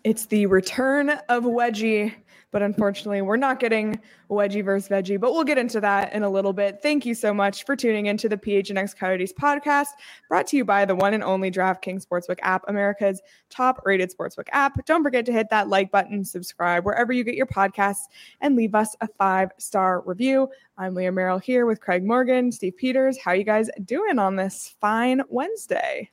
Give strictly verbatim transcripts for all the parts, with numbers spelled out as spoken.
It's the return of Wedgie, but unfortunately we're not getting Wedgie versus Veggie, but we'll get into that in a little bit. Thank you so much for tuning into the P H N X Coyotes podcast, brought to you by the one and only DraftKings Sportsbook app, America's top rated sportsbook app. Don't forget to hit that like button, subscribe wherever you get your podcasts, and leave us a five-star review. I'm Leah Merrill here with Craig Morgan, Steve Peters. How are you guys doing on this fine Wednesday?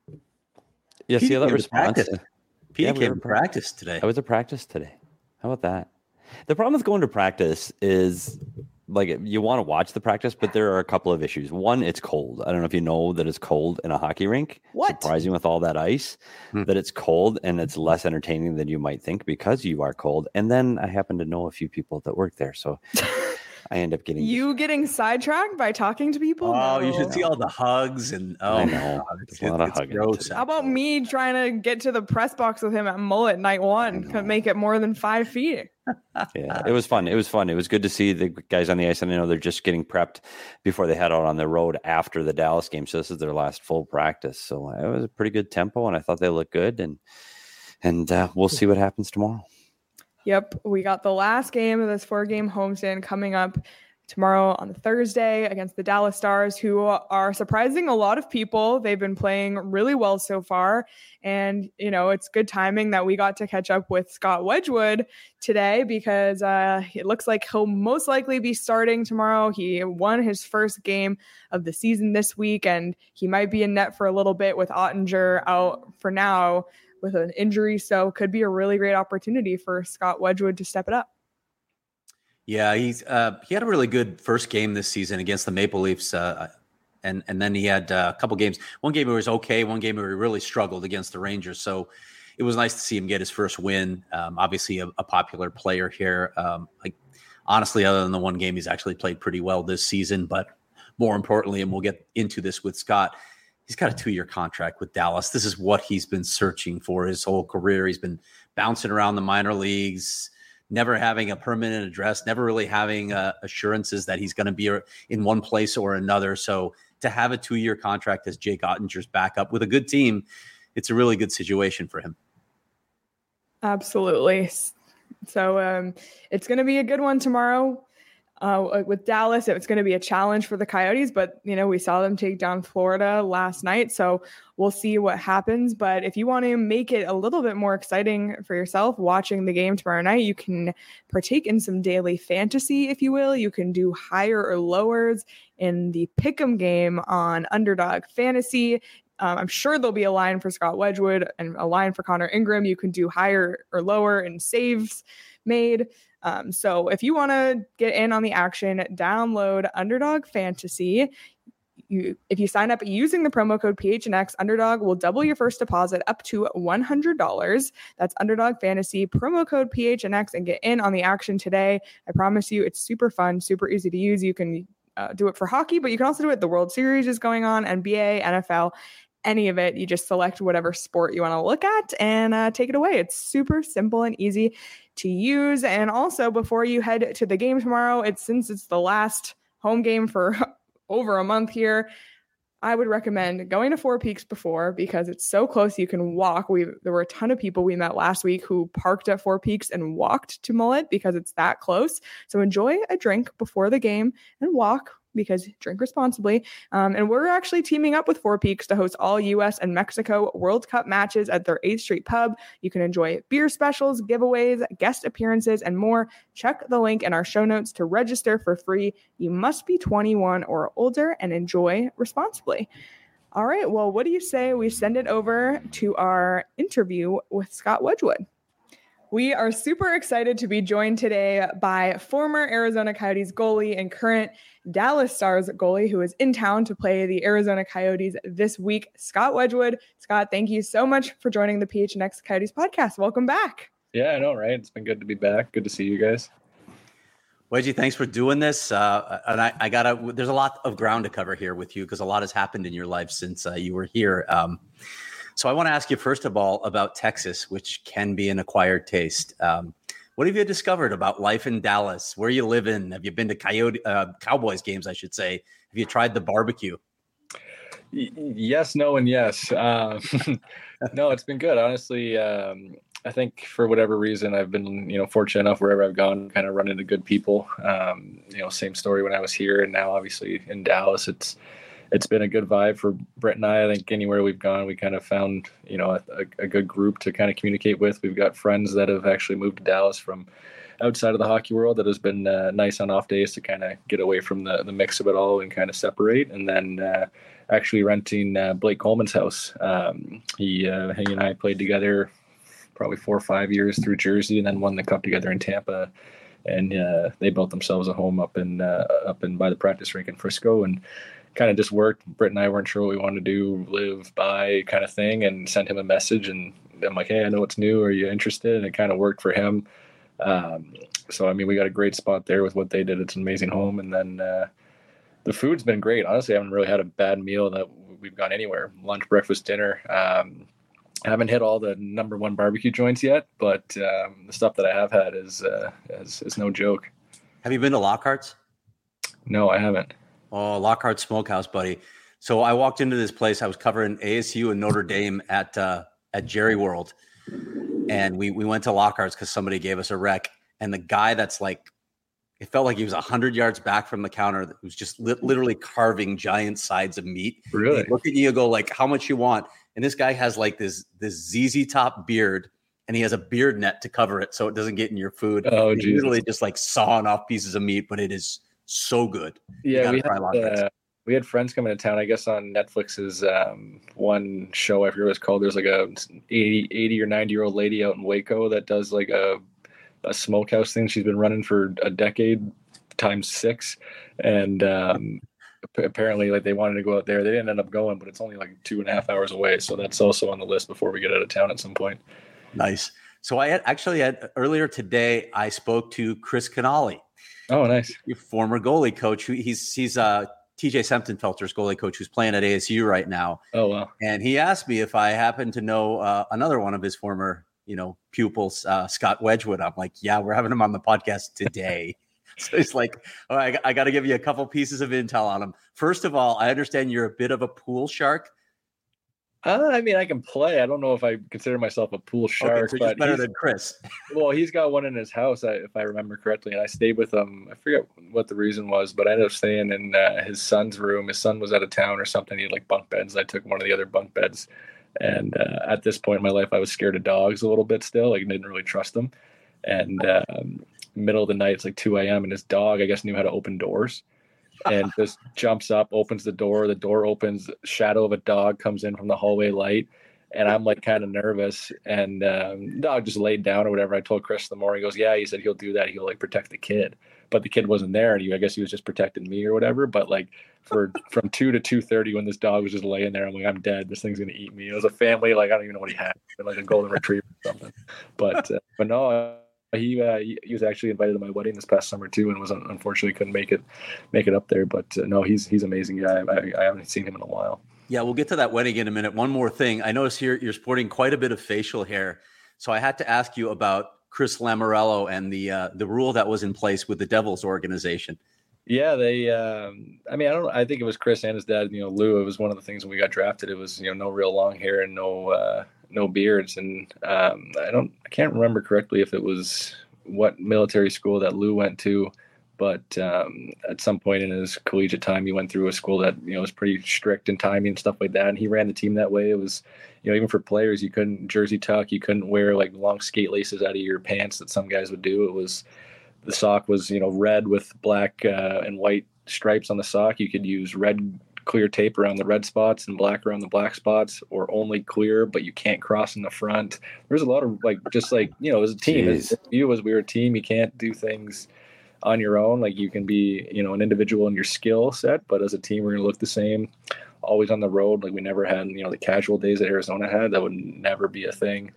Yeah, see how that response? Pete yeah, came we to practice today. I was at practice today. How about that? The problem with going to practice is, like, you want to watch the practice, but there are a couple of issues. One, it's cold. I don't know if you know that it's cold in a hockey rink. What? Surprising with all that ice, hmm. that it's cold and it's less entertaining than you might think because you are cold. And then I happen to know a few people that work there, so I end up getting you getting sidetracked by talking to people. Oh, no. you should see all the hugs and oh, I know. God, it's, a lot of it's hugging. gross. How about me trying to get to the press box with him at Mullet night one? Could make it more than five feet. Yeah, it was fun. It was fun. It was good to see the guys on the ice, and I know they're just getting prepped before they head out on the road after the Dallas game. So this is their last full practice. So it was a pretty good tempo, and I thought they looked good. And and uh, we'll see what happens tomorrow. Yep, we got the last game of this four-game homestand coming up tomorrow on Thursday against the Dallas Stars, who are surprising a lot of people. They've been playing really well so far. And, you know, it's good timing that we got to catch up with Scott Wedgwood today because uh, it looks like he'll most likely be starting tomorrow. He won his first game of the season this week, and he might be in net for a little bit with Ottinger out for now with an injury. So could be a really great opportunity for Scott Wedgwood to step it up. Yeah, he's uh, he had a really good first game this season against the Maple Leafs, uh, and and then he had uh, a couple games. One game where he was okay, one game where he really struggled against the Rangers. So it was nice to see him get his first win. Um, obviously, a, a popular player here. Um, like honestly, other than the one game, he's actually played pretty well this season. But more importantly, and we'll get into this with Scott, he's got a two-year contract with Dallas. This is what he's been searching for his whole career. He's been bouncing around the minor leagues, never having a permanent address, never really having uh, assurances that he's going to be in one place or another. So to have a two-year contract as Jake Ottinger's backup with a good team, it's a really good situation for him. Absolutely. So um, it's going to be a good one tomorrow. Uh, with Dallas, it's going to be a challenge for the Coyotes, but, you know, we saw them take down Florida last night, so we'll see what happens. But if you want to make it a little bit more exciting for yourself watching the game tomorrow night, you can partake in some daily fantasy, if you will. You can do higher or lowers in the Pick'em game on Underdog Fantasy. Um, I'm sure there'll be a line for Scott Wedgwood and a line for Connor Ingram. You can do higher or lower in saves made. Um, so if you want to get in on the action, download Underdog Fantasy. You, if you sign up using the promo code P H N X, Underdog will double your first deposit up to one hundred dollars. That's Underdog Fantasy, promo code P H N X, and get in on the action today. I promise you, it's super fun, super easy to use. You can uh, do it for hockey, but you can also do it. The World Series is going on, N B A, N F L, any of it. You just select whatever sport you want to look at and uh, take it away. It's super simple and easy to use. And also, before you head to the game tomorrow, it's since it's the last home game for over a month here, I would recommend going to Four Peaks before because it's so close you can walk. We there were a ton of people we met last week who parked at Four Peaks and walked to Mullet because it's that close. So enjoy a drink before the game and walk, because drink responsibly. Um, and we're actually teaming up with Four Peaks to host all U S and Mexico World Cup matches at their eighth Street Pub. You can enjoy beer specials, giveaways, guest appearances, and more. Check the link in our show notes to register for free. You must be twenty-one or older and enjoy responsibly. All right, well, what do you say we send it over to our interview with Scott Wedgwood? We are super excited to be joined today by former Arizona Coyotes goalie and current Dallas Stars goalie who is in town to play the Arizona Coyotes this week, Scott Wedgwood. Scott, thank you so much for joining the P H N X Coyotes podcast. Welcome back. Yeah, I know, right? It's been good to be back. Good to see you guys. Wedgie, thanks for doing this. Uh, and I, I gotta, there's a lot of ground to cover here with you because a lot has happened in your life since uh, you were here. Um, So I want to ask you, first of all, about Texas, which can be an acquired taste. Um, what have you discovered about life in Dallas? Where you live in? Have you been to Coyote uh, Cowboys games, I should say? Have you tried the barbecue? Y- yes, no, and yes. Uh, no, it's been good. Honestly, um, I think for whatever reason, I've been, you know, fortunate enough wherever I've gone, kind of run into good people. Um, you know, same story when I was here, and now obviously in Dallas, it's it's been a good vibe for Brett and I. I think anywhere we've gone, we kind of found, you know, a, a good group to kind of communicate with. We've got friends that have actually moved to Dallas from outside of the hockey world that has been uh, nice on off days to kind of get away from the, the mix of it all and kind of separate. And then uh, actually renting uh, Blake Coleman's house. Um, he, uh, he and I played together probably four or five years through Jersey, and then won the cup together in Tampa. And uh, they built themselves a home up in uh, up in by the practice rink in Frisco, and kind of just worked. Britt and I weren't sure what we wanted to do, live by kind of thing, and sent him a message. And I'm like, hey, I know what's new. Are you interested? And it kind of worked for him. Um, so, I mean, we got a great spot there with what they did. It's an amazing home. And then uh, the food's been great. Honestly, I haven't really had a bad meal that we've gone anywhere. Lunch, breakfast, dinner. Um, I haven't hit all the number one barbecue joints yet, but um, the stuff that I have had is, uh, is is no joke. Have you been to Lockhart's? No, I haven't. Oh, Lockhart Smokehouse, buddy. So I walked into this place. I was covering A S U and Notre Dame at uh, at Jerry World, and we we went to Lockhart's because somebody gave us a rec. And the guy that's like, it felt like he was a hundred yards back from the counter. That was just li- literally carving giant sides of meat. Really? He'd look at you and go like, how much you want? And this guy has like this this Z Z Top beard, and he has a beard net to cover it so it doesn't get in your food. Oh, He's literally just like sawing off pieces of meat, but it is so good. Yeah, we had, uh, we had friends coming to town, I guess, on Netflix's um, one show. I forget what it's called. There's like a eighty, eighty or ninety year old lady out in Waco that does like a, a smokehouse thing. She's been running for a decade times six. And um, apparently like they wanted to go out there. They didn't end up going, but it's only like two and a half hours away. So that's also on the list before we get out of town at some point. Nice. So I had actually had earlier today, I spoke to Chris Canali. Oh, nice. Your former goalie coach. Who he's he's uh T J Sempton-Felter's goalie coach who's playing at A S U right now. Oh, wow. And he asked me if I happen to know uh, another one of his former, you know, pupils, uh, Scott Wedgwood. I'm like, yeah, we're having him on the podcast today. So he's like, all right, I, I got to give you a couple pieces of intel on him. First of all, I understand you're a bit of a pool shark. Uh, I mean, I can play. I don't know if I consider myself a pool shark, okay, so but better than Chris. Well, he's got one in his house, if I remember correctly, and I stayed with him. I forget what the reason was, but I ended up staying in uh, his son's room. His son was out of town or something. He had like bunk beds. I took one of the other bunk beds, and uh, at this point in my life, I was scared of dogs a little bit still. Like, didn't really trust them. And um, middle of the night, it's like two a.m. and his dog, I guess, knew how to open doors. And just jumps up, opens the door. The door opens. Shadow of a dog comes in from the hallway light, and I'm like kind of nervous. And um, dog just laid down or whatever. I told Chris in the morning. He goes, "Yeah," he said he'll do that. He'll like protect the kid, but the kid wasn't there, and he, I guess he was just protecting me or whatever. But like for from two to two thirty, when this dog was just laying there, I'm like, I'm dead. This thing's gonna eat me. It was a family. Like I don't even know what he had, like a golden retriever or something. But uh, but no. Uh, He, uh, he he was actually invited to my wedding this past summer too, and was unfortunately couldn't make it make it up there. But uh, no, he's he's an amazing guy. I, I haven't seen him in a while. Yeah, we'll get to that wedding in a minute. One more thing, I noticed here you're sporting quite a bit of facial hair, so I had to ask you about Chris Lamoriello and the uh, the rule that was in place with the Devils organization. Yeah, they. Um, I mean, I don't. I think it was Chris and his dad. You know, Lou. It was one of the things when we got drafted. It was you know no real long hair and no uh, no beards, and um, I don't. I can't remember correctly if it was what military school that Lou went to, but um, at some point in his collegiate time, he went through a school that, you know, was pretty strict in timing and stuff like that. And he ran the team that way. It was, you know, even for players, you couldn't jersey tuck, you couldn't wear like long skate laces out of your pants that some guys would do. It was, the sock was, you know, red with black uh, and white stripes on the sock. You could use red clear tape around the red spots and black around the black spots, or only clear, but you can't cross in the front. There's a lot of like, just like, you know, as a team, as you, as we were a team, you can't do things on your own. Like you can be, you know, an individual in your skill set, but as a team, we're going to look the same, always on the road. Like we never had, you know, the casual days that Arizona had. That would never be a thing.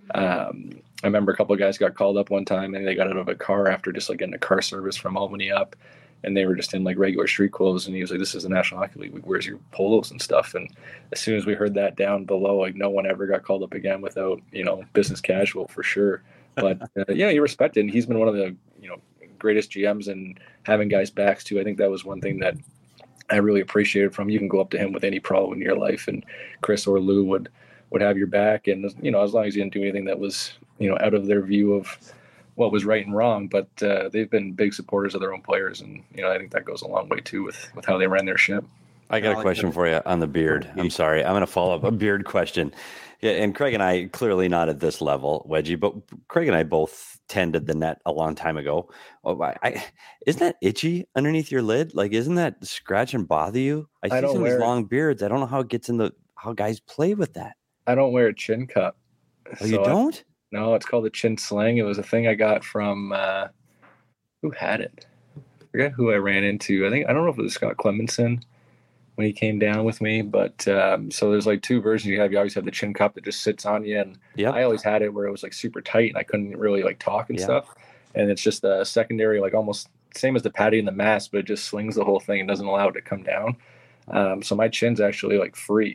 Um, I remember a couple of guys got called up one time and they got out of a car after just like getting a car service from Albany up, and they were just in like regular street clothes. And he was like, "This is the National Hockey League. Where's your polos and stuff?" And as soon as we heard that down below, like no one ever got called up again without, you know, business casual for sure. But uh, yeah, you respect it. And he's been one of the, you know, greatest G Ms and having guys backs too. I think that was one thing that I really appreciated from him. You can go up to him with any problem in your life, and Chris or Lou would, would have your back. And, you know, as long as you didn't do anything that was, you know, out of their view of what was right and wrong, but uh, they've been big supporters of their own players. And, you know, I think that goes a long way too with, with how they ran their ship. I got a question for you on the beard. I'm sorry. I'm going to follow up a beard question. Yeah, and Craig and I, clearly not at this level, Wedgie, but Craig and I both tended the net a long time ago. Oh, I, I, isn't that itchy underneath your lid? Like, isn't that scratch and bother you? I see I don't some of wear these long beards. I don't know how it gets in the, how guys play with that. I don't wear a chin cup. Oh, so you don't? I, no, it's called a chin sling. It was a thing I got from, uh, who had it? I forget who I ran into. I think, I don't know if it was Scott Clemenson when he came down with me, but um, so there's like two versions you have. You always have the chin cup that just sits on you, and Yep. I always had it where it was like super tight and I couldn't really like talk and Yeah. stuff. And it's just a secondary, like almost same as the patty and the mask, but it just slings the whole thing and doesn't allow it to come down. Um, so my chin's actually like free.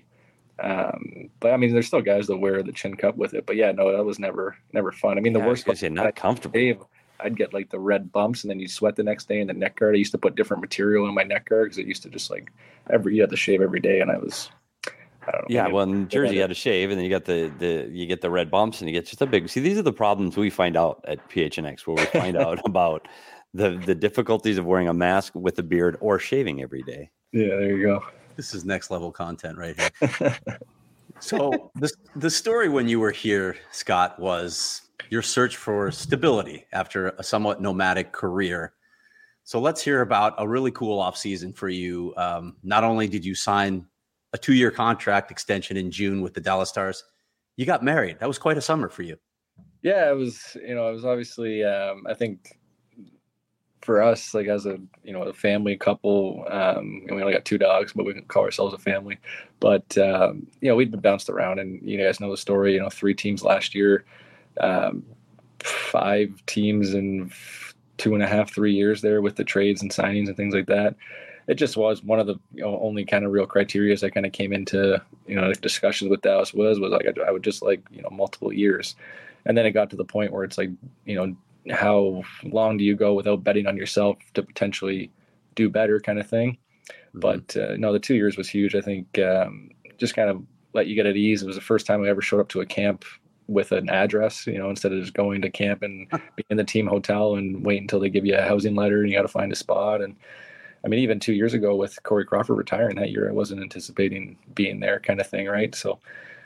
Um, but I mean, there's still guys that wear the chin cup with it. But yeah, no, that was never never fun. I mean, the Yeah, I was worst gonna say, not I- comfortable. Dave, I'd get like the red bumps, and then you sweat the next day in the neck guard. I used to put different material in my neck guard because it used to just like every you had to shave every day, and I was, I don't know. Yeah, maybe- well, in Jersey, you had to shave, and then you got the the you get the red bumps, and you get just a big. See, these are the problems we find out at P H N X, where we find out about the the difficulties of wearing a mask with a beard or shaving every day. yeah, there you go. This is next level content right here. So the the story when you were here, Scott, was your search for stability after a somewhat nomadic career. So let's hear about a really cool offseason for you. Um, not only did you sign a two-year contract extension in June with the Dallas Stars, you got married. That was quite a summer for you. Yeah, it was. You know, it was obviously. Um, I think for us, like as a you know a family couple, um, and we only got two dogs, but we can call ourselves a family. But um, you know, we'd been bounced around, and you guys know the story. You know, three teams last year, um, five teams in two and a half, three years there with the trades and signings and things like that. It just was one of the you know, only kind of real criteria that kind of came into you know discussions with Dallas was was like I, I would just like you know multiple years, and then it got to the point where it's like you know how long do you go without betting on yourself to potentially do better kind of thing. Mm-hmm. But uh, no, the two years was huge. I think um, just kind of let you get at ease. It was the first time I ever showed up to a camp with an address, you know, instead of just going to camp and be in the team hotel and wait until they give you a housing letter and you got to find a spot. And I mean, even two years ago with Corey Crawford retiring that year, I wasn't anticipating being there kind of thing. Right. So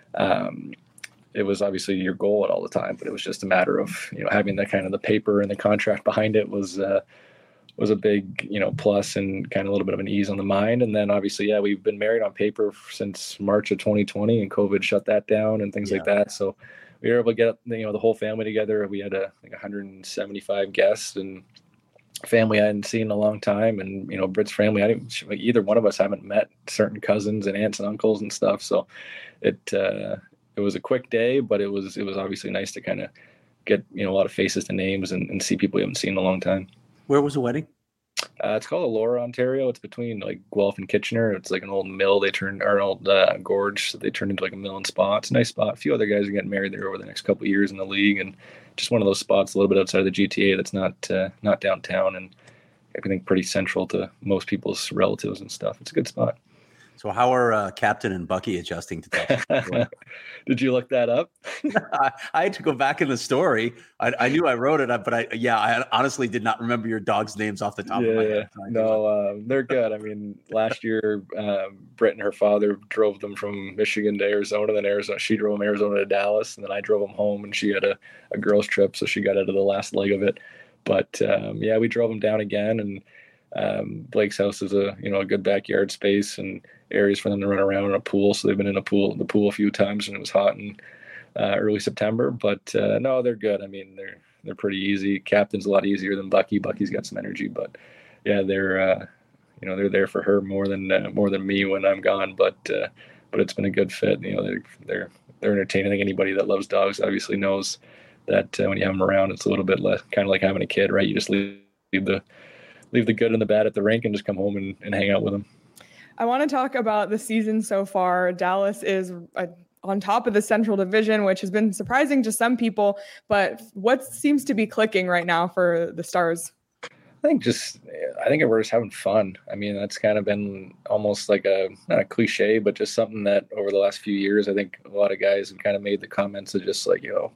um, it was obviously your goal at all the time, but it was just a matter of, you know, having the kind of the paper and the contract behind it was, uh, was a big, you know, plus and kind of a little bit of an ease on the mind. And then obviously, yeah, we've been married on paper since March of twenty twenty and COVID shut that down and things Yeah. like that. So we were able to get, you know, the whole family together. We had a, like one hundred seventy-five guests and family I hadn't seen in a long time. And, you know, Britt's family, I didn't, like, either one of us haven't met certain cousins and aunts and uncles and stuff. So it, uh, it was a quick day, but it was, it was obviously nice to kind of get, you know, a lot of faces to names and, and see people we haven't seen in a long time. Where was the wedding? Uh, it's called Elora, Ontario. It's between like Guelph and Kitchener. It's like an old mill they turned, or an old uh, gorge. So they turned into like a mill and spa. It's a nice spot. A few other guys are getting married there over the next couple of years in the league, and just one of those spots a little bit outside of the G T A that's not uh, not downtown, and I think pretty central to most people's relatives and stuff. It's a good spot. So how are uh, Captain and Bucky adjusting to that? Did you look that up? I, I had to go back in the story. I, I knew I wrote it, but I yeah, I honestly did not remember your dogs' names off the top of my head. No, um, they're good. I mean, last year, um, Britt and her father drove them from Michigan to Arizona. Then Arizona, she drove them Arizona to Dallas, and then I drove them home. And she had a, a girls' trip, so she got out of the last leg of it. But um, yeah, we drove them down again, and um, Blake's house is a you know a good backyard space and areas for them to run around in a pool. So they've been in a pool, the pool a few times, and it was hot in uh, early September. But uh, no, they're good. I mean, they're they're pretty easy. Captain's a lot easier than Bucky. Bucky's got some energy, but yeah, they're uh, you know they're there for her more than uh, more than me when I'm gone. But uh, but it's been a good fit. You know, they're they're they're entertaining. I think anybody that loves dogs obviously knows that uh, when you have them around, it's a little bit less kind of like having a kid, right? You just leave, leave the leave the good and the bad at the rink and just come home and, and hang out with them. I want to talk about the season so far. Dallas is uh, on top of the Central Division, which has been surprising to some people, but what seems to be clicking right now for the Stars? I think just, I think we're just having fun. I mean, that's kind of been almost like a, not a cliche, but just something that over the last few years, I think a lot of guys have kind of made the comments of just like, you know,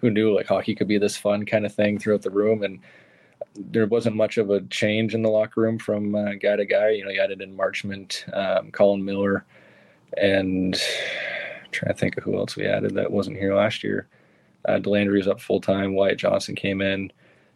who knew like hockey could be this fun kind of thing throughout the room. And there wasn't much of a change in the locker room from uh, guy to guy. You know, you added in Marchment, um, Colin Miller, and I'm trying to think of who else we added that wasn't here last year. Uh, Delandry was up full time. Wyatt Johnson came in.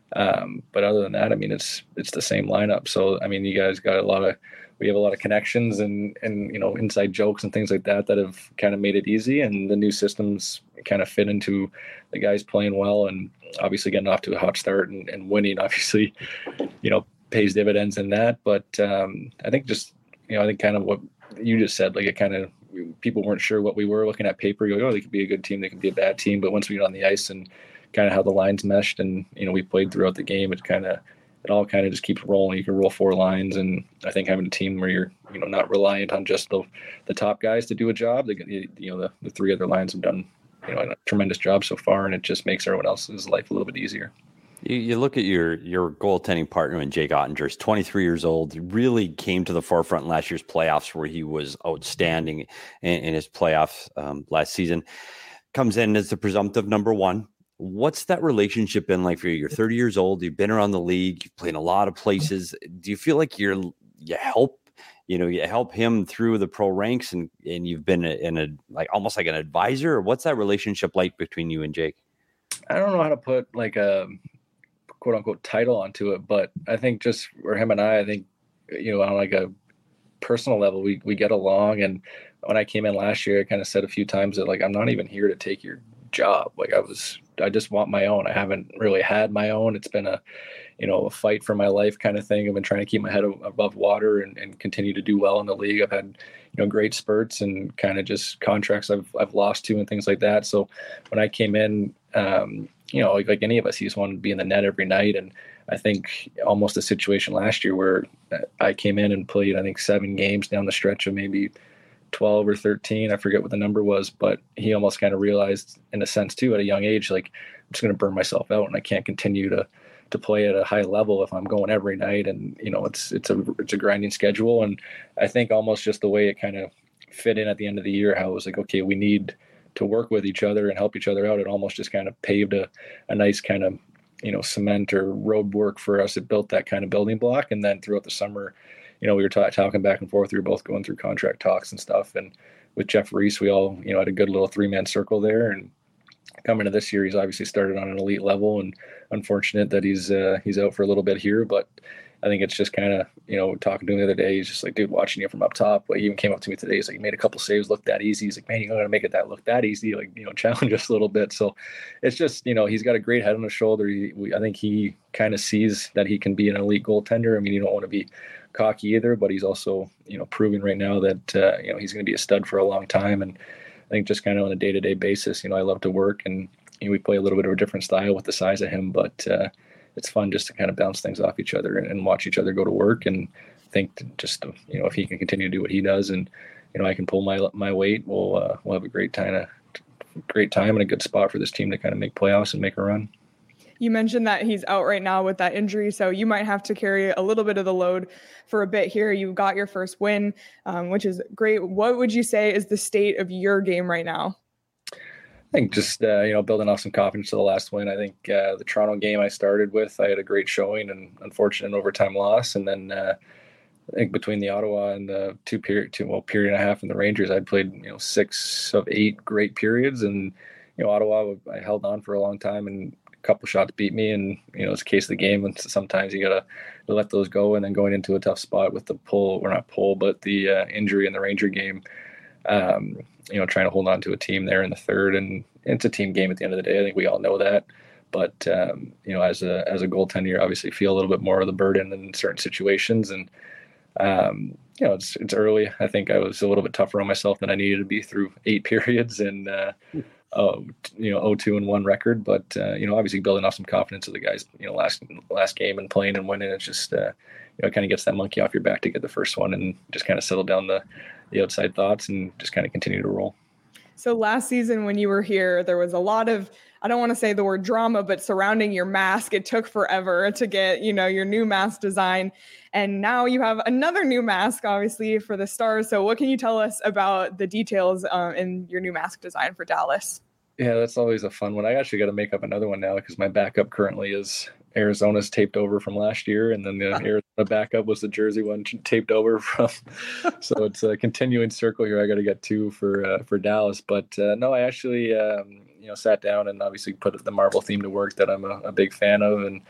Um, but other than that, I mean, it's it's the same lineup. So, I mean, you guys got a lot of, we have a lot of connections and, and you know, inside jokes and things like that that have kind of made it easy. And the new systems kind of fit into the guys playing well and obviously getting off to a hot start and, and winning, obviously, you know, pays dividends in that. But um, I think just, you know, I think kind of what you just said, like it kind of, people weren't sure what we were looking at paper. You go, oh, they could be a good team, they could be a bad team. But once we get on the ice and kind of how the lines meshed and, you know, we played throughout the game, it kind of, it all kind of just keeps rolling. You can roll four lines. And I think having a team where you're, you know, not reliant on just the, the top guys to do a job, they, you know, the, the three other lines have done, you know, a tremendous job so far. And it just makes everyone else's life a little bit easier. You, you look at your your goaltending partner in Jake Ottinger. He's twenty-three years old. He really came to the forefront in last year's playoffs where he was outstanding in, in his playoffs um, last season. Comes in as the presumptive number one. What's that relationship been like for you? You're thirty years old. You've been around the league. You've played in a lot of places. Do you feel like you're you help you know you help him through the pro ranks and and you've been in a like almost like an advisor? Or what's that relationship like between you and Jake? I don't know how to put like a quote unquote title onto it, but I think just for him and I, I think, you know, on like a personal level, we, we get along. And when I came in last year, I kind of said a few times that like, I'm not even here to take your job. Like I was, I just want my own. I haven't really had my own. It's been a, you know, a fight for my life kind of thing. I've been trying to keep my head above water and, and continue to do well in the league. I've had, you know, great spurts and kind of just contracts I've, I've lost to and things like that. So when I came in, um, you know, like, like any of us, he just wanted to be in the net every night. And I think almost a situation last year where I came in and played, I think seven games down the stretch of maybe twelve or thirteen. I forget what the number was, but he almost kind of realized in a sense too, at a young age, like I'm just going to burn myself out and I can't continue to, to play at a high level if I'm going every night. And, you know, it's, it's a, it's a grinding schedule. And I think almost just the way it kind of fit in at the end of the year, how it was like, okay, we need to work with each other and help each other out. It almost just kind of paved a, a nice kind of, you know, cement or road work for us. It built that kind of building block. And then throughout the summer, you know, we were t- talking back and forth. We were both going through contract talks and stuff. And with Jeff Reese, we all, you know, had a good little three man circle there. And coming to this year, he's obviously started on an elite level, and unfortunate that he's, uh, he's out for a little bit here, but I think it's just kind of, you know, talking to him the other day, he's just like, dude, watching you from up top. Like, he even came up to me today. He's like, you made a couple saves look that easy. He's like, man, you're not going to make it that look that easy. Like, you know, challenge us a little bit. So it's just, you know, he's got a great head on his shoulder. He, we, I think he kind of sees that he can be an elite goaltender. I mean, you don't want to be cocky either, but he's also, you know, proving right now that, uh, you know, he's going to be a stud for a long time. And I think just kind of on a day-to-day basis, you know, I love to work, and you know, we play a little bit of a different style with the size of him, but, uh, it's fun just to kind of bounce things off each other and, and watch each other go to work. And think just, you know, if he can continue to do what he does and, you know, I can pull my, my weight, we'll, uh, we'll have a great time, a great time and a good spot for this team to kind of make playoffs and make a run. You mentioned that he's out right now with that injury, so you might have to carry a little bit of the load for a bit here. You got your first win, um, which is great. What would you say is the state of your game right now? I think just, uh, you know, building off some confidence to the last win. I think uh, the Toronto game I started with, I had a great showing and unfortunate overtime loss. And then uh, I think between the Ottawa and the two period, two, well, period and a half and the Rangers, I'd played, you know, six of eight great periods. And, you know, Ottawa, I held on for a long time and a couple shots beat me. And, you know, it's a case of the game. And sometimes you got to let those go. And then going into a tough spot with the pull, or not pull, but the uh, injury in the Ranger game, um, you know, trying to hold on to a team there in the third, and it's a team game at the end of the day. I think we all know that, but, um, you know, as a, as a goaltender, you obviously feel a little bit more of the burden in certain situations. And, um, you know, it's, it's early. I think I was a little bit tougher on myself than I needed to be through eight periods and, uh, oh, you know, oh two and one record, but, uh, you know, obviously building off some confidence of the guys, you know, last, last game and playing and winning. It's just, uh, you know, it kind of gets that monkey off your back to get the first one and just kind of settle down the, the outside thoughts and just kind of continue to roll. So last season when you were here, there was a lot of, I don't want to say the word drama, but surrounding your mask. It took forever to get, you know, your new mask design. And now you have another new mask, obviously, for the Stars. So what can you tell us about the details uh, in your new mask design for Dallas? Yeah, that's always a fun one. I actually got to make up another one now because my backup currently is Arizona's taped over from last year, and then the Arizona backup was the Jersey one taped over from. So it's a continuing circle here. I got to get two for uh, for Dallas, but uh, no, I actually um, you know sat down and obviously put the Marvel theme to work that I'm a, a big fan of, and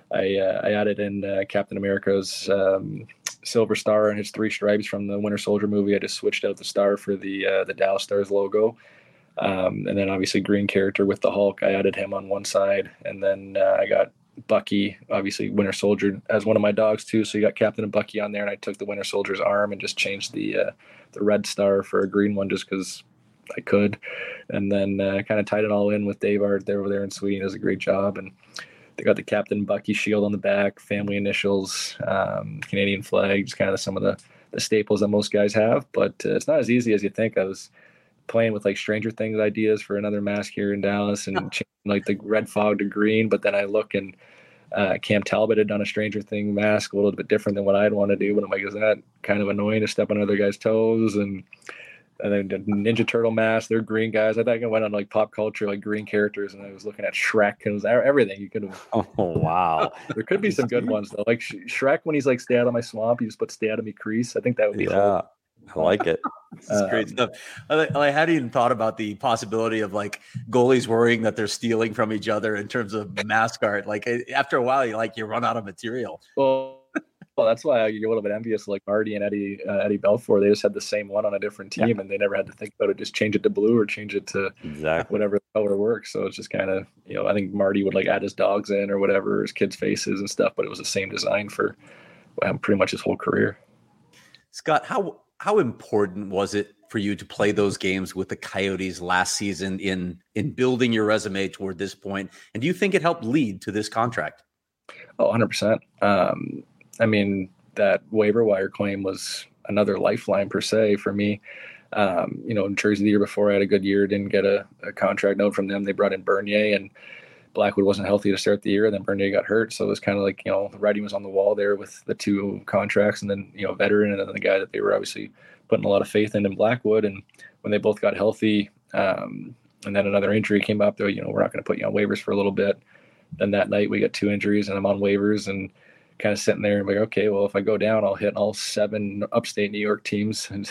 I uh, I added in uh, Captain America's um, Silver Star and his three stripes from the Winter Soldier movie. I just switched out the star for the uh, the Dallas Stars logo. Um, and then obviously green character with the Hulk, I added him on one side. And then uh, I got Bucky, obviously Winter Soldier, as one of my dogs too. So you got Captain and Bucky on there, and I took the Winter Soldier's arm and just changed the uh, the red star for a green one just because I could. And then uh, kind of tied it all in with Dave Art there over there in Sweden. Does a great job. And they got the Captain Bucky shield on the back, family initials, um, Canadian flag, just kind of some of the, the staples that most guys have. But uh, it's not as easy as you think. I was playing with like Stranger Things ideas for another mask here in Dallas and changing, like the red fog to green. But then I look and uh, Cam Talbot had done a Stranger Thing mask a little bit different than what I'd want to do. But I'm like, is that kind of annoying to step on other guys' toes? And and then the Ninja Turtle mask, they're green guys. I think I went on like pop culture, like green characters, and I was looking at Shrek and it was everything you could have. Oh wow! There could be some good ones though, like Shrek when he's like "Stay out of my swamp," you just put "Stay out of me crease." I think that would be yeah. cool. I like it. This is great um, stuff. I, I hadn't even thought about the possibility of like goalies worrying that they're stealing from each other in terms of mask art. Like after a while, you like you run out of material. Well, well that's why you're a little bit envious. Like Marty and Eddie uh, Eddie Belfour, they just had the same one on a different team, yeah. and they never had to think about it. Just change it to blue or change it to exactly whatever color works. So it's just kind of you know I think Marty would like add his dogs in or whatever, his kids' faces and stuff, but it was the same design for well, pretty much his whole career. Scott, how How important was it for you to play those games with the Coyotes last season in in building your resume toward this point? And do you think it helped lead to this contract? Oh, one hundred percent. Um, I mean, that waiver wire claim was another lifeline per se for me. Um, you know, in Jersey the year before, I had a good year, didn't get a, a contract note from them. They brought in Bernier, and Blackwood wasn't healthy to start the year, and then Bernier got hurt. So it was kind of like, you know, the writing was on the wall there with the two contracts and then, you know, veteran and then the guy that they were obviously putting a lot of faith in in Blackwood. And when they both got healthy um, and then another injury came up, though, you know, we're not going to put you on waivers for a little bit. Then that night we got two injuries and I'm on waivers and kind of sitting there and like, okay, well, if I go down, I'll hit all seven upstate New York teams and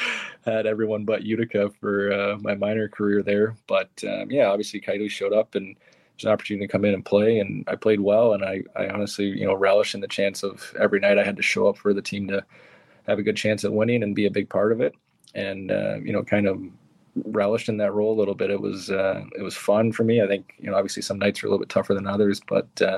had everyone but Utica for uh, my minor career there. But um, yeah, obviously Coyotes showed up and there's an opportunity to come in and play, and I played well. And I, I honestly, you know, relish in the chance of every night I had to show up for the team to have a good chance at winning and be a big part of it. And, uh, you know, kind of relished in that role a little bit. It was, uh, it was fun for me. I think, you know, obviously some nights are a little bit tougher than others, but uh,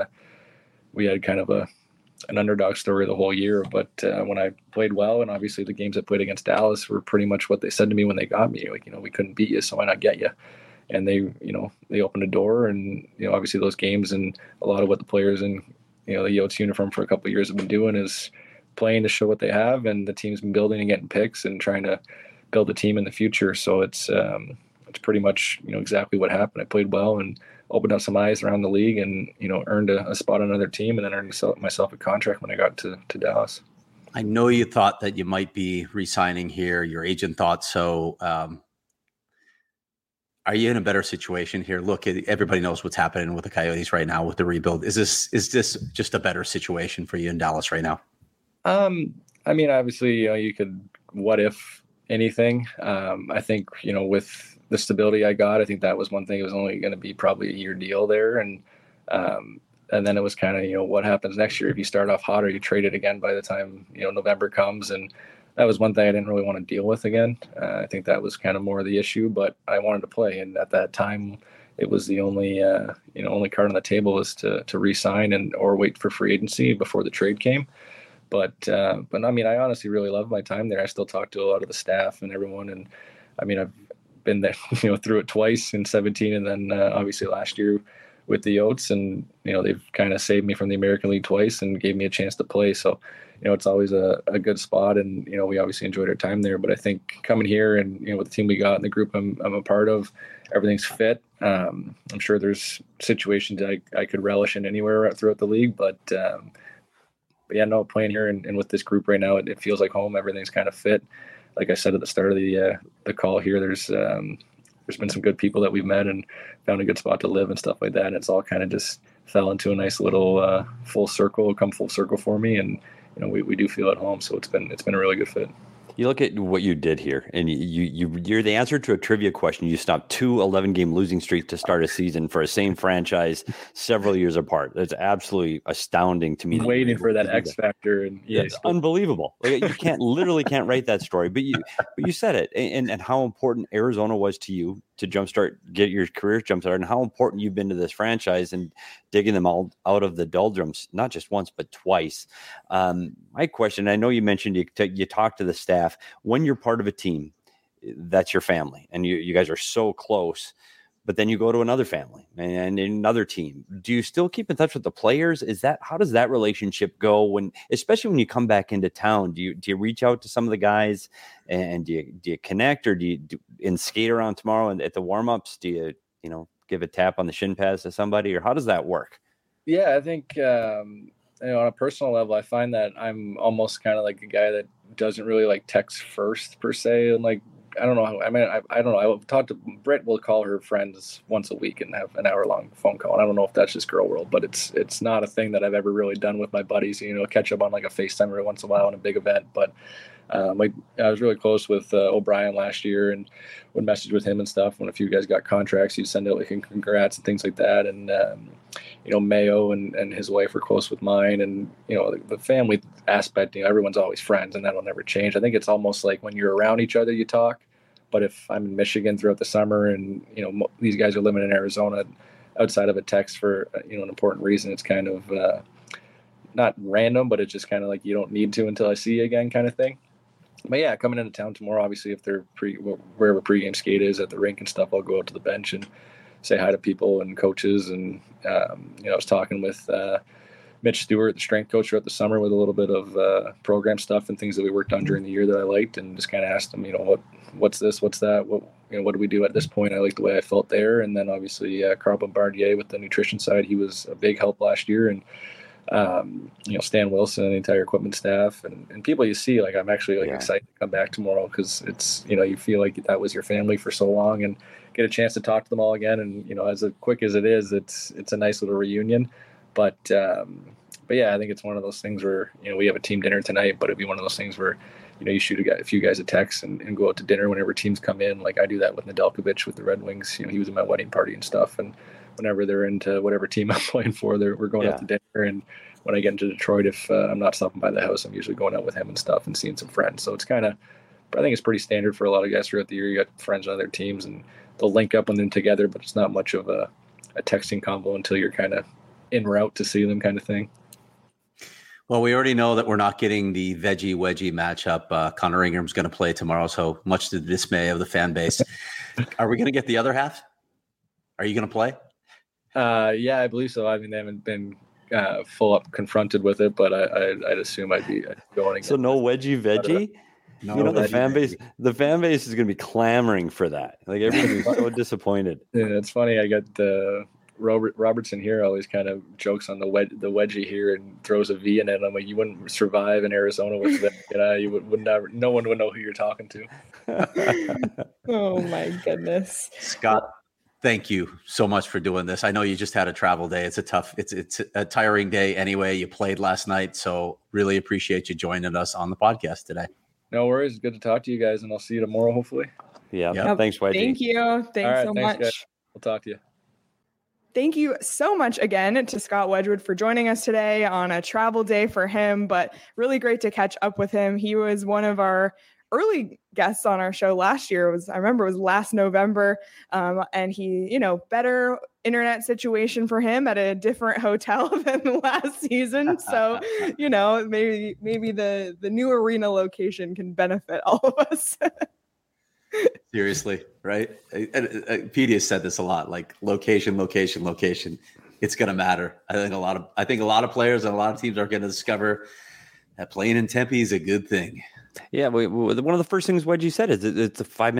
we had kind of a, an underdog story the whole year. But uh, when I played well, and obviously the games I played against Dallas were pretty much what they said to me when they got me, like, you know, we couldn't beat you, so why not get you? And they, you know, they opened a door, and you know, obviously those games and a lot of what the players in, you know, the Yotes uniform for a couple of years have been doing is playing to show what they have, and the team's been building and getting picks and trying to build a team in the future. So it's um, it's pretty much you know exactly what happened. I played well and opened up some eyes around the league, and you know earned a, a spot on another team, and then earned myself a contract when I got to to Dallas. I know you thought that you might be re-signing here. Your agent thought so. Um, Are you in a better situation here? Look, everybody knows what's happening with the Coyotes right now with the rebuild. Is this is this just a better situation for you in Dallas right now? Um, I mean, obviously, you know, you could what if anything. Um, I think, you know, with the stability I got, I think that was one thing. It was only going to be probably a year deal there. And um, and then it was kind of, you know, what happens next year if you start off hot or you trade it again by the time, you know, November comes. And that was one thing I didn't really want to deal with again. Uh, I think that was kind of more of the issue, but I wanted to play. And at that time, it was the only, uh, you know, only card on the table was to to re-sign and or wait for free agency before the trade came. But, uh, but I mean, I honestly really love my time there. I still talk to a lot of the staff and everyone. And I mean, I've been there, you know, through it twice in seventeen and then uh, obviously last year with the Yotes, and, you know, they've kind of saved me from the American League twice and gave me a chance to play. So, you know, it's always a, a good spot, and, you know, we obviously enjoyed our time there, but I think coming here and, you know, with the team we got and the group I'm, I'm a part of, everything's fit. Um, I'm sure there's situations I, I could relish in anywhere throughout the league, but, um, but yeah, no, playing here and, and with this group right now, it, it feels like home. Everything's kind of fit. Like I said at the start of the, uh, the call here, there's, um, there's been some good people that we've met and found a good spot to live and stuff like that. And it's all kind of just fell into a nice little uh, full circle, come full circle for me. And, you know, we, we do feel at home. So it's been, it's been a really good fit. You look at what you did here, and you, you, you're the answer to a trivia question. You stopped two eleven-game losing streaks to start a season for a same franchise several years apart. That's absolutely astounding to me. Waiting for that X factor, and yeah, it's unbelievable. Like, you can't literally can't write that story, but you but you said it, and and how important Arizona was to you to jumpstart, get your career jumpstart, and how important you've been to this franchise and digging them all out of the doldrums, not just once but twice. Um, my question, I know you mentioned you t- you talk to the staff. When you're part of a team, that's your family, and you you guys are so close. But then you go to another family and another team. Do you still keep in touch with the players? Is that, how does that relationship go when, especially when you come back into town? Do you do you reach out to some of the guys and do you do you connect, or do you do, in skate around tomorrow and at the warm-ups, do you you know give a tap on the shin pads to somebody, or how does that work? Yeah, I think um, you know, on a personal level, I find that I'm almost kind of like a guy that doesn't really like text first per se, and like. I don't know. How, I mean, I, I don't know. I talked to Britt. Will call her friends once a week and have an hour long phone call. And I don't know if that's just girl world, but it's it's not a thing that I've ever really done with my buddies. You know, catch up on like a FaceTime every once in a while on a big event. But um, like I was really close with uh, O'Brien last year and would message with him and stuff. When a few guys got contracts, he'd send out like congrats and things like that. And um, you know, Mayo and, and his wife are close with mine, and you know, the, the family aspect. You know, everyone's always friends, and that'll never change. I think it's almost like when you're around each other, you talk. But if I'm in Michigan throughout the summer and, you know, mo- these guys are living in Arizona outside of a text for, you know, an important reason, it's kind of uh, not random, but it's just kind of like you don't need to until I see you again kind of thing. But yeah, coming into town tomorrow, obviously, if they're pre, wherever pregame skate is at the rink and stuff, I'll go out to the bench and say hi to people and coaches. And, um, you know, I was talking with uh, Mitch Stewart, the strength coach, throughout the summer with a little bit of uh, program stuff and things that we worked on during the year that I liked, and just kind of asked him, you know, what, what's this, what's that, what, you know, what do we do at this point? I like the way I felt there. And then obviously uh, Carl Bombardier with the nutrition side, he was a big help last year. And, um, you know, Stan Wilson and the entire equipment staff and, and people you see, like, I'm actually like yeah. excited to come back tomorrow, because it's, you know, you feel like that was your family for so long, and get a chance to talk to them all again. And, you know, as quick as it is, it's, it's a nice little reunion. But, um, but yeah, I think it's one of those things where, you know, we have a team dinner tonight, but it'd be one of those things where, you know, you shoot a, guy, a few guys a text and, and go out to dinner whenever teams come in. Like I do that with Nedeljkovic with the Red Wings. You know, he was at my wedding party and stuff. And whenever they're into whatever team I'm playing for, they're, we're going yeah. out to dinner. And when I get into Detroit, if uh, I'm not stopping by the house, I'm usually going out with him and stuff and seeing some friends. So it's kind of, I think it's pretty standard for a lot of guys throughout the year. You got friends on other teams and they'll link up with them together, but it's not much of a, a texting combo until you're kind of en route to see them kind of thing. Well, we already know that we're not getting the veggie wedgie matchup. Uh, Connor Ingram's going to play tomorrow, so much to the dismay of the fan base. Are we going to get the other half? Are you going to play? Uh, yeah, I believe so. I mean, they haven't been uh, full up confronted with it, but I, I, I'd assume I'd be going. So no wedgie veggie. No, you know, the fan base, the fan base is going to be clamoring for that. Like everybody's so disappointed. Yeah, it's funny. I got the. Uh, Robert Robertson here always kind of jokes on the wed- the wedgie here and throws a V in it. I'm like, you wouldn't survive in Arizona with that. You know, you would, would never. No one would know who you're talking to. Oh my goodness, Scott! Thank you so much for doing this. I know you just had a travel day. It's a tough. It's it's a tiring day anyway. You played last night, so really appreciate you joining us on the podcast today. No worries. Good to talk to you guys, and I'll see you tomorrow, hopefully. Yeah. Yep. Thanks, Wedgie. Thank you. Thanks right, so thanks, much. Guys. We'll talk to you. Thank you so much again to Scott Wedgwood for joining us today on a travel day for him, but really great to catch up with him. He was one of our early guests on our show last year. It was, I remember it was last November. Um, and he, you know, better internet situation for him at a different hotel than last season. So, you know, maybe, maybe the, the new arena location can benefit all of us. Seriously, right? Petey has said this a lot, like location, location, location. It's going to matter. I think a lot of I think a lot of players and a lot of teams are going to discover that playing in Tempe is a good thing. Yeah, we, we, one of the first things Wedgie said is it, it's a five minute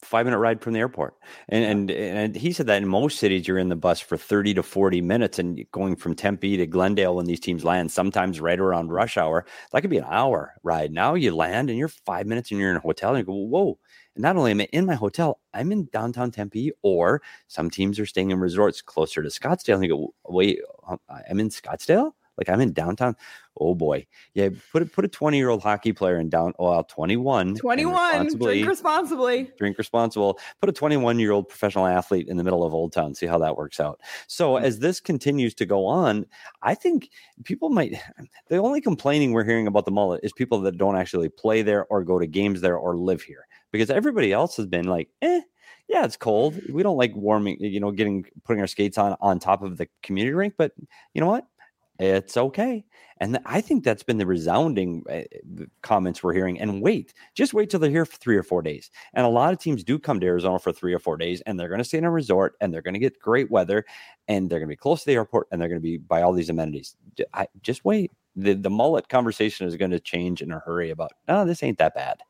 five minute ride from the airport. And, and and he said that in most cities, you're in the bus for thirty to forty minutes, and going from Tempe to Glendale when these teams land, sometimes right around rush hour, that could be an hour ride. Now you land and you're five minutes and you're in a hotel and you go, whoa. And not only am I in my hotel, I'm in downtown Tempe, or some teams are staying in resorts closer to Scottsdale. And you go, wait, I'm in Scottsdale? Like I'm in downtown. Oh boy. Yeah. Put a, put a twenty year old hockey player in down. Well, twenty-one, twenty-one, drink responsibly, drink responsible, put a twenty-one year old professional athlete in the middle of Old Town. See how that works out. So as this continues to go on, I think people might, the only complaining we're hearing about the Mullet is people that don't actually play there or go to games there or live here, because everybody else has been like, eh, yeah, it's cold. We don't like warming, you know, getting, putting our skates on, on top of the community rink, but you know what? It's okay. And I think that's been the resounding uh, comments we're hearing. And wait, just wait till they're here for three or four days. And a lot of teams do come to Arizona for three or four days, and they're going to stay in a resort, and they're going to get great weather, and they're going to be close to the airport, and they're going to be by all these amenities. I, just wait. The, the Mullet conversation is going to change in a hurry about, oh, this ain't that bad.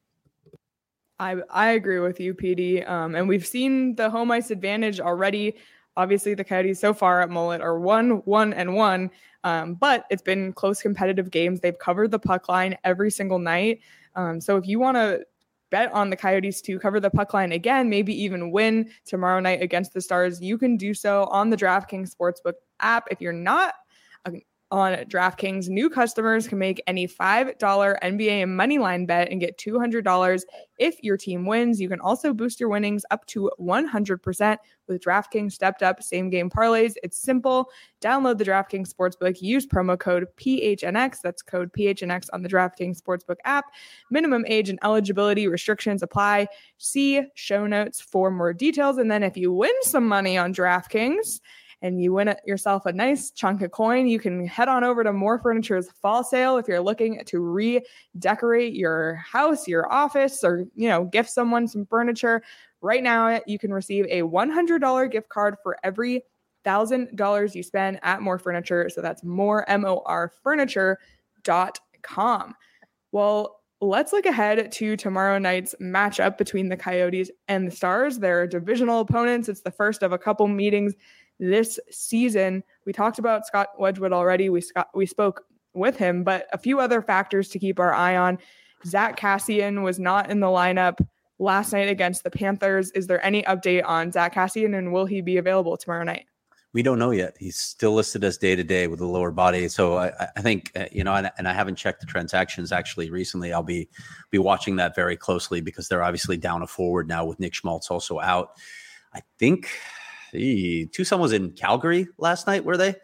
I, I agree with you, P D. Um, and we've seen the home ice advantage already. Obviously, the Coyotes so far at Mullet are one, one, and one, um, but it's been close competitive games. They've covered the puck line every single night. Um, so if you want to bet on the Coyotes to cover the puck line again, maybe even win tomorrow night against the Stars, you can do so on the DraftKings Sportsbook app. If you're not a on DraftKings, new customers can make any five dollars N B A moneyline bet and get two hundred dollars if your team wins. You can also boost your winnings up to one hundred percent with DraftKings stepped up same game parlays. It's simple. Download the DraftKings Sportsbook. Use promo code P H N X. That's code P H N X on the DraftKings Sportsbook app. Minimum age and eligibility restrictions apply. See show notes for more details. And then if you win some money on DraftKings, and you win yourself a nice chunk of coin, you can head on over to More Furniture's fall sale if you're looking to redecorate your house, your office, or, you know, gift someone some furniture. Right now, you can receive a one hundred dollars gift card for every one thousand dollars you spend at More Furniture. So that's more, M O R furniture dot com. Well, let's look ahead to tomorrow night's matchup between the Coyotes and the Stars. They're divisional opponents. It's the first of a couple meetings this season. We talked about Scott Wedgwood already. We Scott, we spoke with him, but a few other factors to keep our eye on. Zach Kassian was not in the lineup last night against the Panthers. Is there any update on Zach Kassian, and will he be available tomorrow night? We don't know yet. He's still listed as day to day with a lower body. So I, I think, uh, you know, and, and I haven't checked the transactions actually recently. I'll be, be watching that very closely because they're obviously down a forward now with Nick Schmaltz also out. I think Hey, Tucson was in Calgary last night, were they?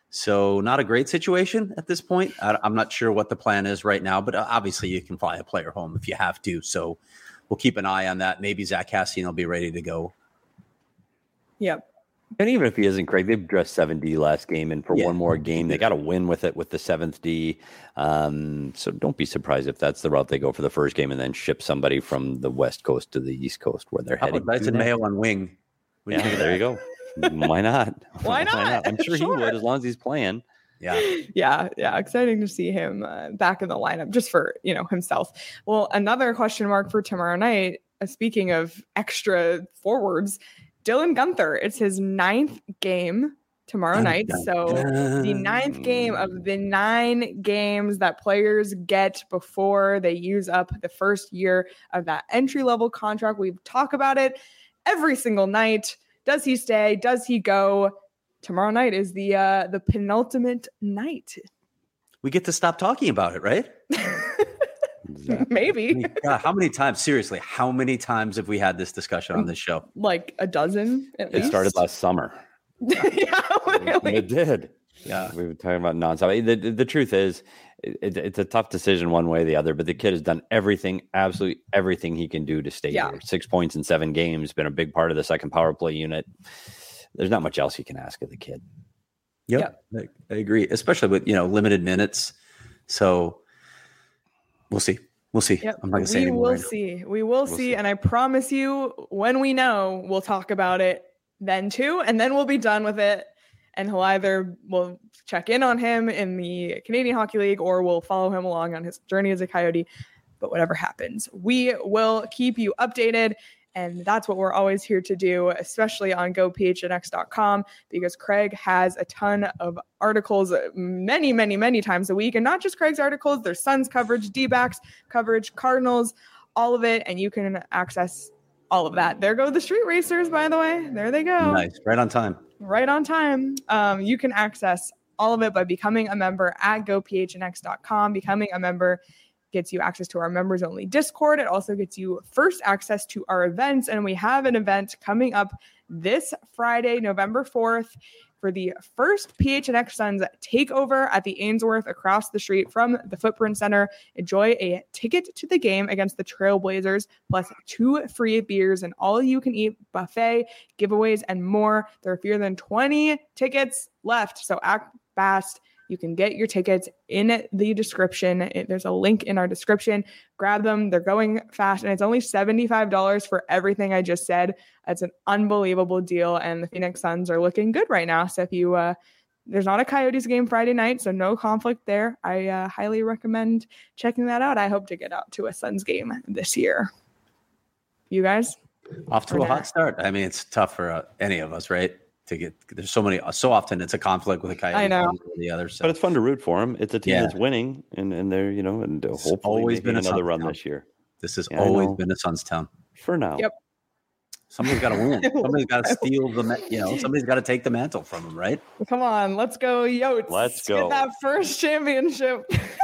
So not a great situation at this point. I, I'm not sure what the plan is right now, but obviously you can fly a player home if you have to. So we'll keep an eye on that. Maybe Zach Kassian will be ready to go. Yep. And even if he isn't, Craig, they've dressed seven D last game, and for yeah. one more game, they got to win with it with the seventh D. Um, so don't be surprised if that's the route they go for the first game and then ship somebody from the West Coast to the East Coast where they're How heading. Dyson Mayo on wing. Yeah, there you go. Why not? Why not? Why not? I'm sure, sure he would, as long as he's playing. Yeah. Yeah. Yeah. Exciting to see him uh, back in the lineup just for, you know, himself. Well, another question mark for tomorrow night, uh, speaking of extra forwards, Dylan Guenther. It's his ninth game tomorrow night. So the ninth game of the nine games that players get before they use up the first year of that entry-level contract. We talk about it every single night. Does he stay? Does he go? Tomorrow night is the uh, the penultimate night. We get to stop talking about it, right? Maybe. God, how many times? Seriously, how many times have we had this discussion on this show? Like a dozen. At it least. started last summer. Yeah, really. It did. Yeah, we were talking about nonstop. The, the, the truth is, it, it's a tough decision one way or the other, but the kid has done everything, absolutely everything he can do to stay yeah. here. Six points in seven games, been a big part of the second power play unit. There's not much else you can ask of the kid. Yep, yep. I, I agree, especially with, you know, limited minutes. So we'll see. We'll see. Yep. I'm not going to say we anymore. will right see. We will we'll see. see. And I promise you, when we know, we'll talk about it then too. And then we'll be done with it. And he'll either we'll check in on him in the Canadian Hockey League, or we'll follow him along on his journey as a Coyote. But whatever happens, we will keep you updated. And that's what we're always here to do, especially on go p h n x dot com, because Craig has a ton of articles many, many, many times a week. And not just Craig's articles, there's Suns coverage, D-backs coverage, Cardinals, all of it. And you can access all of that. There go the street racers, by the way. There they go. Nice. Right on time. Right on time. Um, you can access all of it by becoming a member at go p h n x dot com. Becoming a member gets you access to our members only Discord. It also gets you first access to our events. And we have an event coming up this Friday, November fourth, for the first P H N X Suns takeover at the Ainsworth across the street from the Footprint Center. Enjoy a ticket to the game against the Trailblazers, plus two free beers and all you can eat buffet, giveaways, and more. There are fewer than twenty tickets left, so act fast. You can get your tickets in the description. It, there's a link in our description. Grab them. They're going fast, and it's only seventy-five dollars for everything I just said. That's an unbelievable deal, and the Phoenix Suns are looking good right now. So if you, uh, there's not a Coyotes game Friday night, so no conflict there. I uh, highly recommend checking that out. I hope to get out to a Suns game this year. You guys? Off to a hot start. I mean, it's tough for uh, any of us, right? To get there's so many so often it's a conflict with the Coyotes. I know. Or the other, so. But it's fun to root for them. It's a team Yeah. that's winning, and, and they're you know and It's hopefully always making been a another Suns run town. this year. This has Yeah, I always know. been a Suns town. For now. Yep. Somebody's got to win. Somebody's got to steal the, ma- you know, somebody's got to take the mantle from them, right? Come on, let's go, Yotes. Let's Get go. that first championship.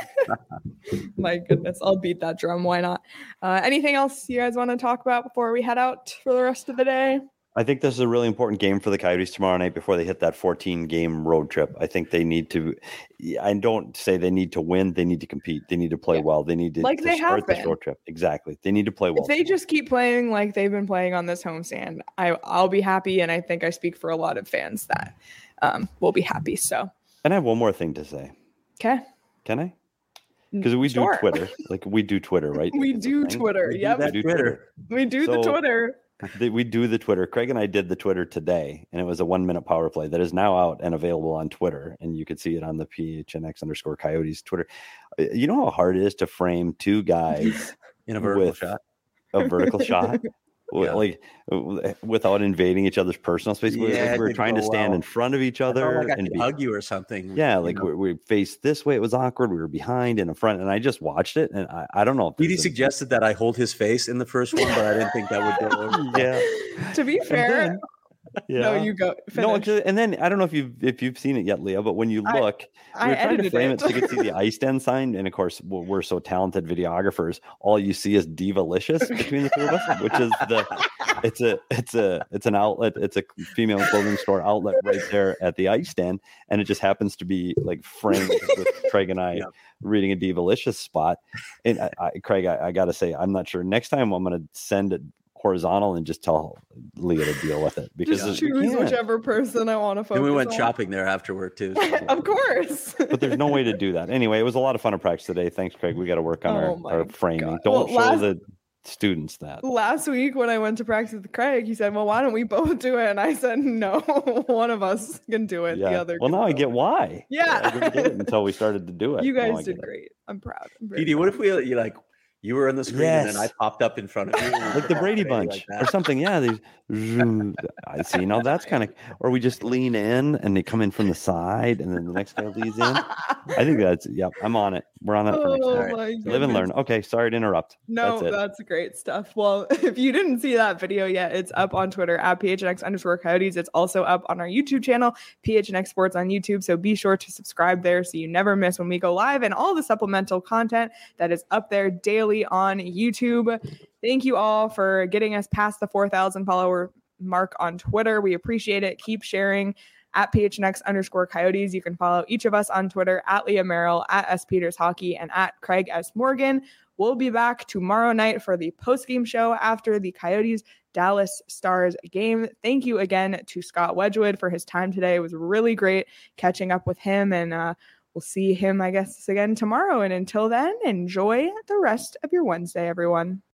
My goodness, I'll beat that drum. Why not? Uh, anything else you guys want to talk about before we head out for the rest of the day? I think this is a really important game for the Coyotes tomorrow night before they hit that fourteen game road trip. I think they need to, I don't say they need to win. They need to compete. They need to play Yeah. well. They need to, Like to they start have this been. road trip. Exactly. They need to play well. If they just keep playing like they've been playing on this homestand, I, I'll be happy. And I think I speak for a lot of fans that um, will be happy. So, And I have one more thing to say. okay. Can I? Because we Sure. do Twitter. Like we do Twitter, right? We It's a do thing. Twitter. We do Yep. that We do Twitter. We do the So- Twitter. The- We do the Twitter. Craig and I did the Twitter today, and it was a one minute power play that is now out and available on Twitter. And you can see it on the P H N X underscore Coyotes Twitter. Uh, You know how hard it is to frame two guys In a vertical with shot. a vertical shot, W- Yeah. like w- without invading each other's personal space. We- Yeah, like it we were didn't trying to go stand well. in front of each I other felt like I and could be, hug you or something. yeah, you like know. we, we faced this way. It was awkward. We were behind and in front, and I just watched it, and I, I don't know. if Petey there's a- suggested that I hold his face in the first one, but I didn't think that would go over. yeah, To be And fair, then- yeah. no, you go. No, Finish. actually- and then I don't know if you've if you've seen it yet, Leah, but when you I- look, I we were trying to edited frame it. it so you could see the ice den sign, and of course we're, we're so talented videographers. All you see is Divalicious between the two of us, which is the it's a it's a it's an outlet, it's a female clothing store outlet right there at the ice den, and it just happens to be like framed with Craig and I Yeah. reading a Divalicious spot. And I, I, Craig, I, I got to say, I'm not sure. Next time I'm going to send it horizontal and just tell Leah to deal with it because Just we choose can't. whichever person I want to focus And we went on. shopping there afterward too. so- Of course. But there's no way to do that. Anyway, it was a lot of fun to practice today. Thanks, Craig. We got to work on Oh my our, our framing. God. Don't Well, show last- the students that. Last week when I went to practice with Craig, he said, "Well, why don't we both do it?" And I said, "No, one of us can do it. The Yeah. other." Well, can now I do get it." why. Yeah. I didn't get it until we started to do it. You Now I guys get did it. great. I'm proud. I'm very Petey, what proud. if we you like you were on the screen and then I Yes. popped up in front of you? Like the Brady Bunch Like or that. something. Yeah. They, zoom. I see. Now that's kind of, or we just lean in and they come in from the side and then the next guy leads in. I think that's, yep, I'm on it. We're on that for next Oh time. time. my Live and learn. goodness. Okay. Sorry to interrupt. No, That's that's, it. great stuff. Well, if you didn't see that video yet, it's up on Twitter at P H N X underscore Coyotes. It's also up on our YouTube channel, P H N X Sports on YouTube. So be sure to subscribe there so you never miss when we go live and all the supplemental content that is up there daily on YouTube. Thank you all for getting us past the four thousand follower mark on Twitter. We appreciate it. Keep sharing. At P H N X underscore Coyotes. You can follow each of us on Twitter at Leah Merrill, at S Peters Hockey, and at Craig S. Morgan. We'll be back tomorrow night for the post-game show after the Coyotes Dallas Stars game. Thank you again to Scott Wedgwood for his time today. It was really great catching up with him, and uh, we'll see him, I guess, again tomorrow. And until then, enjoy the rest of your Wednesday, everyone.